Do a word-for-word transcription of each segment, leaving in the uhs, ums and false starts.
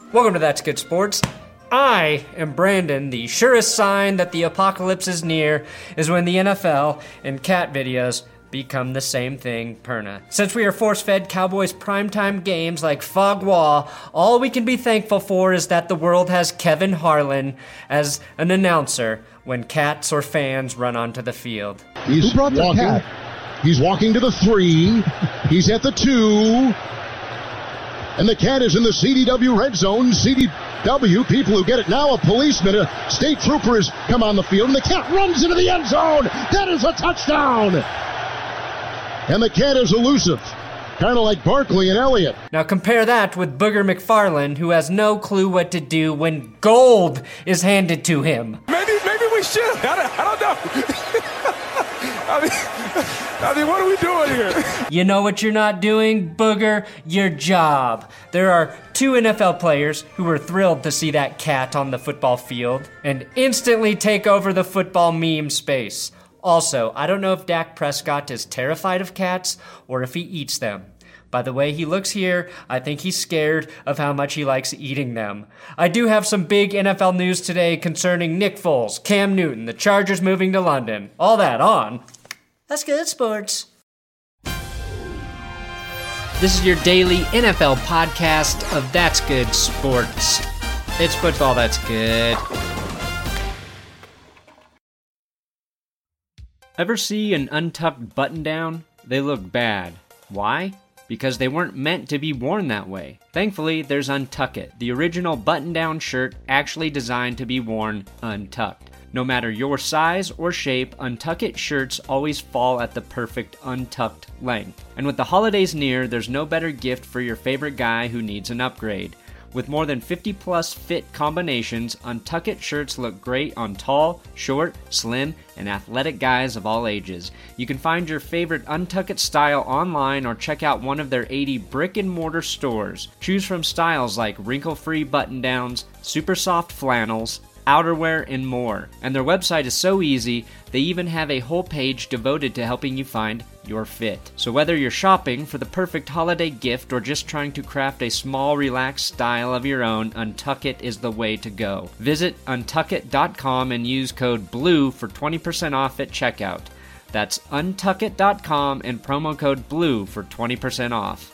Welcome to That's Good Sports. I am Brandon. The surest sign that the apocalypse is near is when the N F L and cat videos become the same thing, Perna. Since we are force-fed Cowboys primetime games like Fagua, all we can be thankful for is that the world has Kevin Harlan as an announcer when cats or fans run onto the field. He's Who brought the walking. cat? He's walking to the three. He's at the two. And the cat is in the C D W red zone. C D W, people who get it now, a policeman, a state trooper has come on the field, and the cat runs into the end zone. That is a touchdown. And the cat is elusive, kind of like Barkley and Elliott. Now compare that with Booger McFarland, who has no clue what to do when gold is handed to him. Maybe, maybe we should. I don't, I don't know. I mean, I mean, what are we doing here? You know what you're not doing, Booger? Your job. There are two N F L players who were thrilled to see that cat on the football field and instantly take over the football meme space. Also, I don't know if Dak Prescott is terrified of cats or if he eats them. By the way he looks here, I think he's scared of how much he likes eating them. I do have some big N F L news today concerning Nick Foles, Cam Newton, the Chargers moving to London. All that on That's Good Sports. This is your daily N F L podcast of That's Good Sports. It's football that's good. Ever see an untucked button-down? They look bad. Why? Because they weren't meant to be worn that way. Thankfully, there's Untuck It, the original button-down shirt actually designed to be worn untucked. No matter your size or shape, Untuck It shirts always fall at the perfect untucked length. And with the holidays near, there's no better gift for your favorite guy who needs an upgrade. With more than fifty plus fit combinations, Untuck It shirts look great on tall, short, slim, and athletic guys of all ages. You can find your favorite Untuck It style online or check out one of their eighty brick and mortar stores. Choose from styles like wrinkle-free button-downs, super soft flannels, outerwear, and more. And their website is so easy, they even have a whole page devoted to helping you find your fit. So whether you're shopping for the perfect holiday gift or just trying to craft a small, relaxed style of your own, Untuck It is the way to go. Visit untuck it dot com and use code BLUE for twenty percent off at checkout. That's untuck it dot com and promo code BLUE for twenty percent off.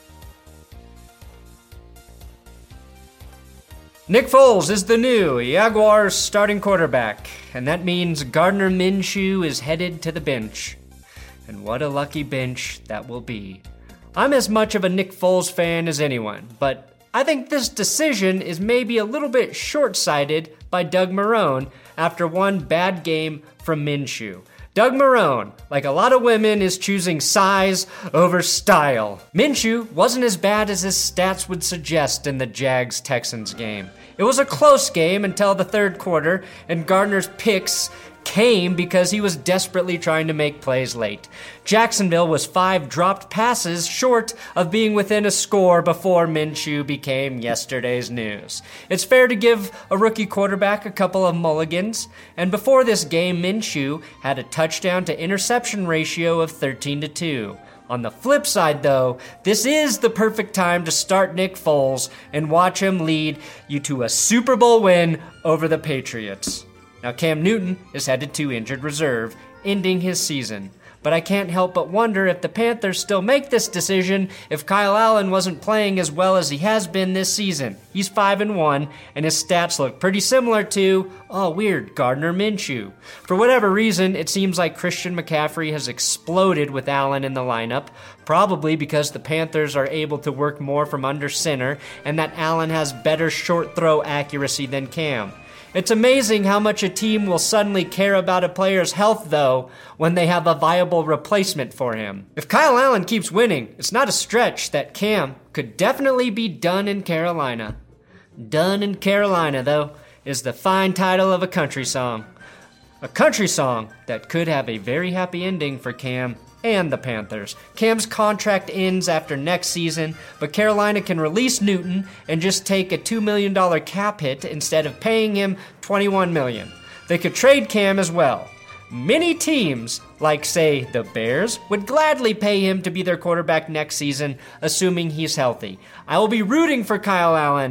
Nick Foles is the new Jaguars starting quarterback, and that means Gardner Minshew is headed to the bench. And what a lucky bench that will be. I'm as much of a Nick Foles fan as anyone, but I think this decision is maybe a little bit short-sighted by Doug Marrone after one bad game from Minshew. Doug Marrone, like a lot of women, is choosing size over style. Minshew wasn't as bad as his stats would suggest in the Jags-Texans game. It was a close game until the third quarter, and Gardner's picks came because he was desperately trying to make plays late. Jacksonville was five dropped passes short of being within a score before Minshew became yesterday's news. It's fair to give a rookie quarterback a couple of mulligans, and before this game, Minshew had a touchdown to interception ratio of thirteen to two. On the flip side, though, this is the perfect time to start Nick Foles and watch him lead you to a Super Bowl win over the Patriots. Now, Cam Newton is headed to injured reserve, ending his season. But I can't help but wonder if the Panthers still make this decision if Kyle Allen wasn't playing as well as he has been this season. He's five and one, and his stats look pretty similar to, oh weird, Gardner Minshew. For whatever reason, it seems like Christian McCaffrey has exploded with Allen in the lineup, probably because the Panthers are able to work more from under center, and that Allen has better short throw accuracy than Cam. It's amazing how much a team will suddenly care about a player's health, though, when they have a viable replacement for him. If Kyle Allen keeps winning, it's not a stretch that Cam could definitely be done in Carolina. Done in Carolina, though, is the fine title of a country song. A country song that could have a very happy ending for Cam and the Panthers. Cam's contract ends after next season, but Carolina can release Newton and just take a two million dollars cap hit instead of paying him twenty-one million dollars. They could trade Cam as well. Many teams, like say the Bears, would gladly pay him to be their quarterback next season, assuming he's healthy. I will be rooting for Kyle Allen,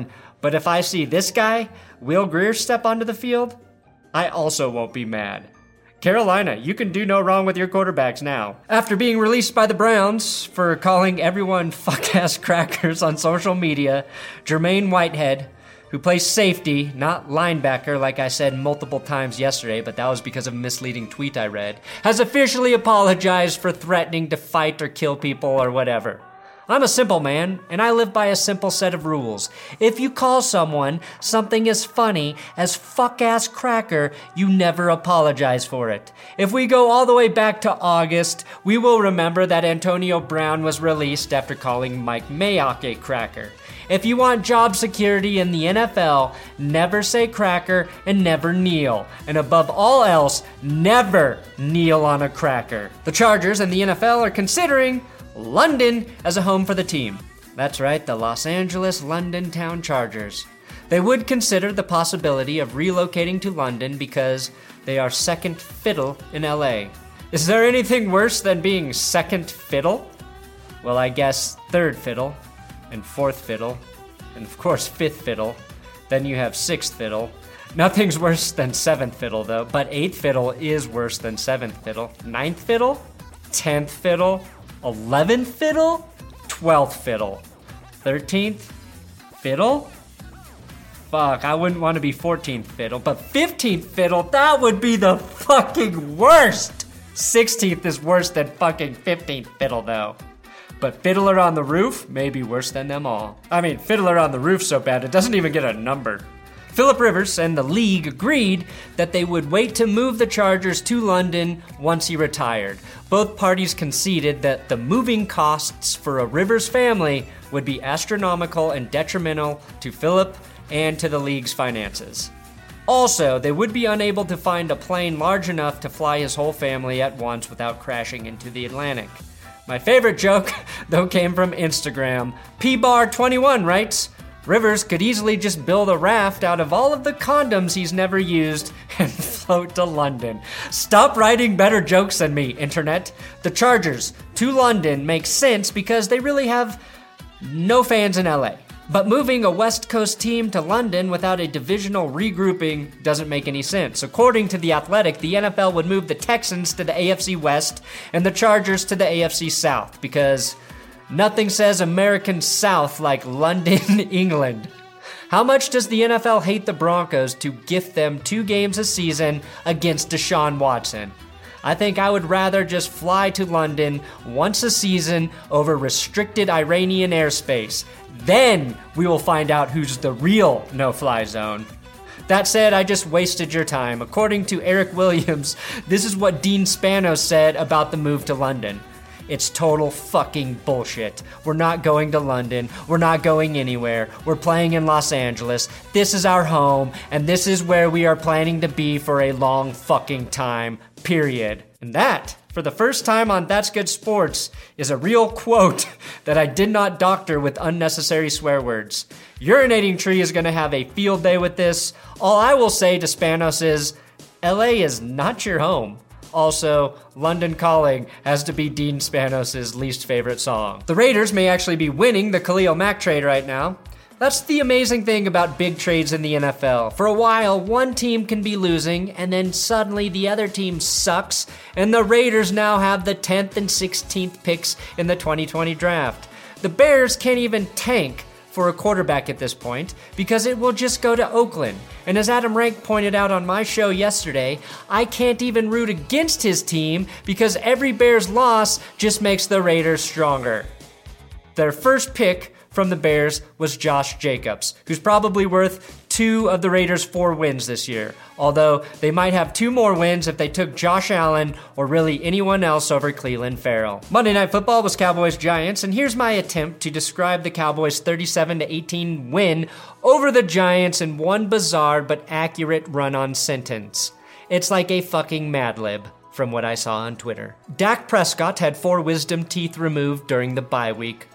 But if I see this guy, Will Grier, step onto the field, I also won't be mad. Carolina, you can do no wrong with your quarterbacks now. After being released by the Browns for calling everyone fuck-ass crackers on social media, Jermaine Whitehead, who plays safety, not linebacker like I said multiple times yesterday, but that was because of a misleading tweet I read, has officially apologized for threatening to fight or kill people or whatever. I'm a simple man, and I live by a simple set of rules. If you call someone something as funny as fuck-ass cracker, you never apologize for it. If we go all the way back to August, we will remember that Antonio Brown was released after calling Mike Mayock a cracker. If you want job security in the N F L, never say cracker and never kneel. And above all else, never kneel on a cracker. The Chargers and the N F L are considering London as a home for the team. That's right, the Los Angeles London Town Chargers. They would consider the possibility of relocating to London because they are second fiddle in L A. Is there anything worse than being second fiddle? Well, I guess third fiddle, and fourth fiddle, and of course fifth fiddle. Then you have sixth fiddle. Nothing's worse than seventh fiddle though, but eighth fiddle is worse than seventh fiddle. Ninth fiddle? Tenth fiddle? eleventh fiddle? twelfth fiddle. thirteenth fiddle? Fuck, I wouldn't want to be fourteenth fiddle, but fifteenth fiddle, that would be the fucking worst! sixteenth is worse than fucking fifteenth fiddle though. But Fiddler on the Roof may be worse than them all. I mean, Fiddler on the Roof's so bad it doesn't even get a number. Philip Rivers and the league agreed that they would wait to move the Chargers to London once he retired. Both parties conceded that the moving costs for a Rivers family would be astronomical and detrimental to Philip and to the league's finances. Also, they would be unable to find a plane large enough to fly his whole family at once without crashing into the Atlantic. My favorite joke, though, came from Instagram. P bar twenty-one writes, Rivers could easily just build a raft out of all of the condoms he's never used and float to London. Stop writing better jokes than me, internet. The Chargers to London makes sense because they really have no fans in L A. But moving a West Coast team to London without a divisional regrouping doesn't make any sense. According to The Athletic, the N F L would move the Texans to the A F C West and the Chargers to the A F C South because nothing says American South like London, England. How much does the N F L hate the Broncos to gift them two games a season against Deshaun Watson? I think I would rather just fly to London once a season over restricted Iranian airspace. Then we will find out who's the real no-fly zone. That said, I just wasted your time. According to Eric Williams, this is what Dean Spanos said about the move to London. It's total fucking bullshit. We're not going to London. We're not going anywhere. We're playing in Los Angeles. This is our home, and this is where we are planning to be for a long fucking time, period. And that, for the first time on That's Good Sports, is a real quote that I did not doctor with unnecessary swear words. Urinating Tree is going to have a field day with this. All I will say to Spanos is, L A is not your home. Also, London Calling has to be Dean Spanos' least favorite song. The Raiders may actually be winning the Khalil Mack trade right now. That's the amazing thing about big trades in the N F L. For a while, one team can be losing, and then suddenly the other team sucks, and the Raiders now have the tenth and sixteenth picks in the twenty twenty draft. The Bears can't even tank for a quarterback at this point because it will just go to Oakland. And as Adam Rank pointed out on my show yesterday, I can't even root against his team because every Bears loss just makes the Raiders stronger. Their first pick from the Bears was Josh Jacobs, who's probably worth two of the Raiders' four wins this year, although they might have two more wins if they took Josh Allen or really anyone else over Clelin Ferrell. Monday Night Football was Cowboys-Giants, and here's my attempt to describe the Cowboys' thirty-seven to eighteen win over the Giants in one bizarre but accurate run-on sentence. It's like a fucking Mad Lib, from what I saw on Twitter. Dak Prescott had four wisdom teeth removed during the bye week.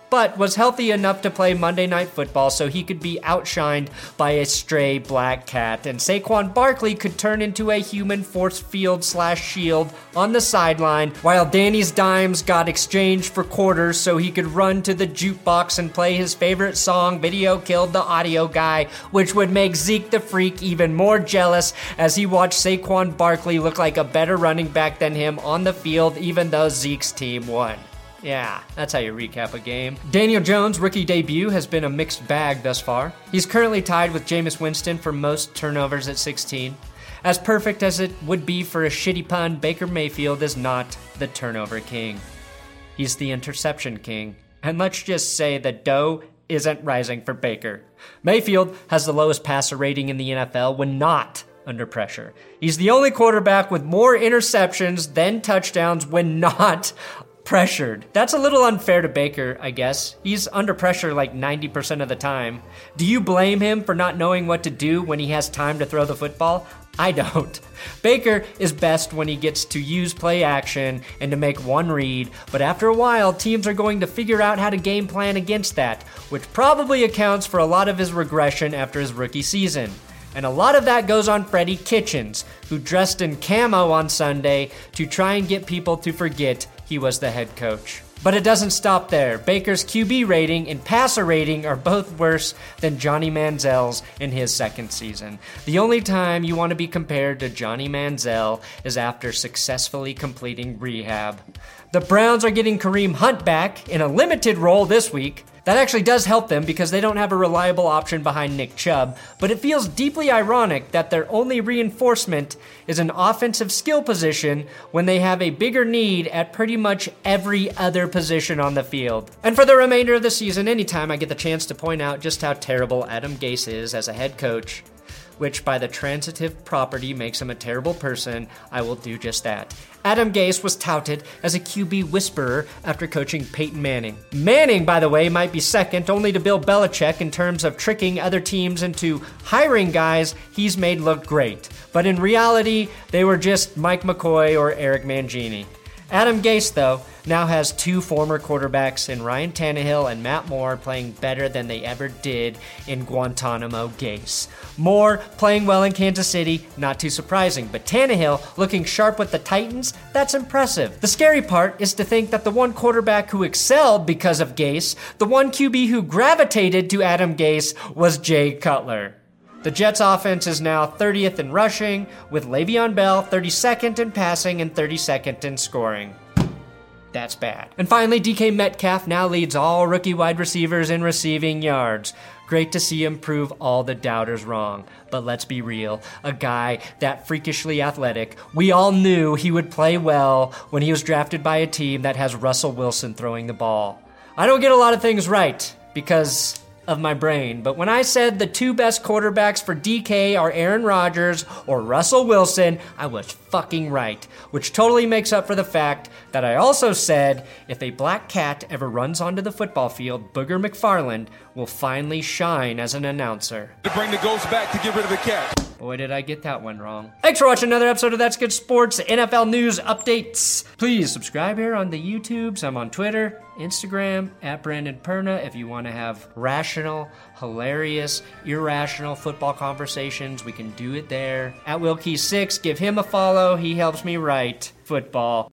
but was healthy enough to play Monday Night Football so he could be outshined by a stray black cat, and Saquon Barkley could turn into a human force field slash shield on the sideline, while Danny's dimes got exchanged for quarters so he could run to the jukebox and play his favorite song, Video Killed the Audio Guy, which would make Zeke the Freak even more jealous as he watched Saquon Barkley look like a better running back than him on the field, even though Zeke's team won. Yeah, that's how you recap a game. Daniel Jones' rookie debut has been a mixed bag thus far. He's currently tied with Jameis Winston for most turnovers at sixteen. As perfect as it would be for a shitty pun, Baker Mayfield is not the turnover king. He's the interception king. And let's just say the dough isn't rising for Baker. Mayfield has the lowest passer rating in the N F L when not under pressure. He's the only quarterback with more interceptions than touchdowns when not pressured. That's a little unfair to Baker, I guess. He's under pressure like ninety percent of the time. Do you blame him for not knowing what to do when he has time to throw the football? I don't. Baker is best when he gets to use play action and to make one read, but after a while, teams are going to figure out how to game plan against that, which probably accounts for a lot of his regression after his rookie season. And a lot of that goes on Freddie Kitchens, who dressed in camo on Sunday to try and get people to forget he was the head coach. But it doesn't stop there. Baker's Q B rating and passer rating are both worse than Johnny Manziel's in his second season. The only time you want to be compared to Johnny Manziel is after successfully completing rehab. The Browns are getting Kareem Hunt back in a limited role this week. That actually does help them because they don't have a reliable option behind Nick Chubb, but it feels deeply ironic that their only reinforcement is an offensive skill position when they have a bigger need at pretty much every other position on the field. And for the remainder of the season, anytime I get the chance to point out just how terrible Adam Gase is as a head coach, which by the transitive property makes him a terrible person, I will do just that. Adam Gase was touted as a Q B whisperer after coaching Peyton Manning. Manning, by the way, might be second only to Bill Belichick in terms of tricking other teams into hiring guys he's made look great. But in reality, they were just Mike McCoy or Eric Mangini. Adam Gase, though, now has two former quarterbacks in Ryan Tannehill and Matt Moore playing better than they ever did in Guantanamo Gase. Moore playing well in Kansas City, not too surprising, but Tannehill looking sharp with the Titans, that's impressive. The scary part is to think that the one quarterback who excelled because of Gase, the one Q B who gravitated to Adam Gase, was Jay Cutler. The Jets' offense is now thirtieth in rushing, with Le'Veon Bell thirty-second in passing and thirty-second in scoring. That's bad. And finally, D K Metcalf now leads all rookie wide receivers in receiving yards. Great to see him prove all the doubters wrong. But let's be real, a guy that freakishly athletic, we all knew he would play well when he was drafted by a team that has Russell Wilson throwing the ball. I don't get a lot of things right because of my brain, but when I said the two best quarterbacks for D K are Aaron Rodgers or Russell Wilson, I was fucking right, which totally makes up for the fact that I also said if a black cat ever runs onto the football field, Booger McFarland will finally shine as an announcer. To bring the ghost back to get rid of the cat. Boy, did I get that one wrong. Thanks for watching another episode of That's Good Sports, N F L news updates. Please subscribe here on the YouTubes. I'm on Twitter, Instagram, at Brandon Perna. If you want to have rational, hilarious, irrational football conversations, we can do it there. At Wilkie six, give him a follow. He helps me write football.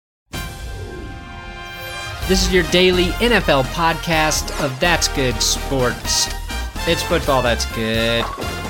This is your daily N F L podcast of That's Good Sports. It's football that's good.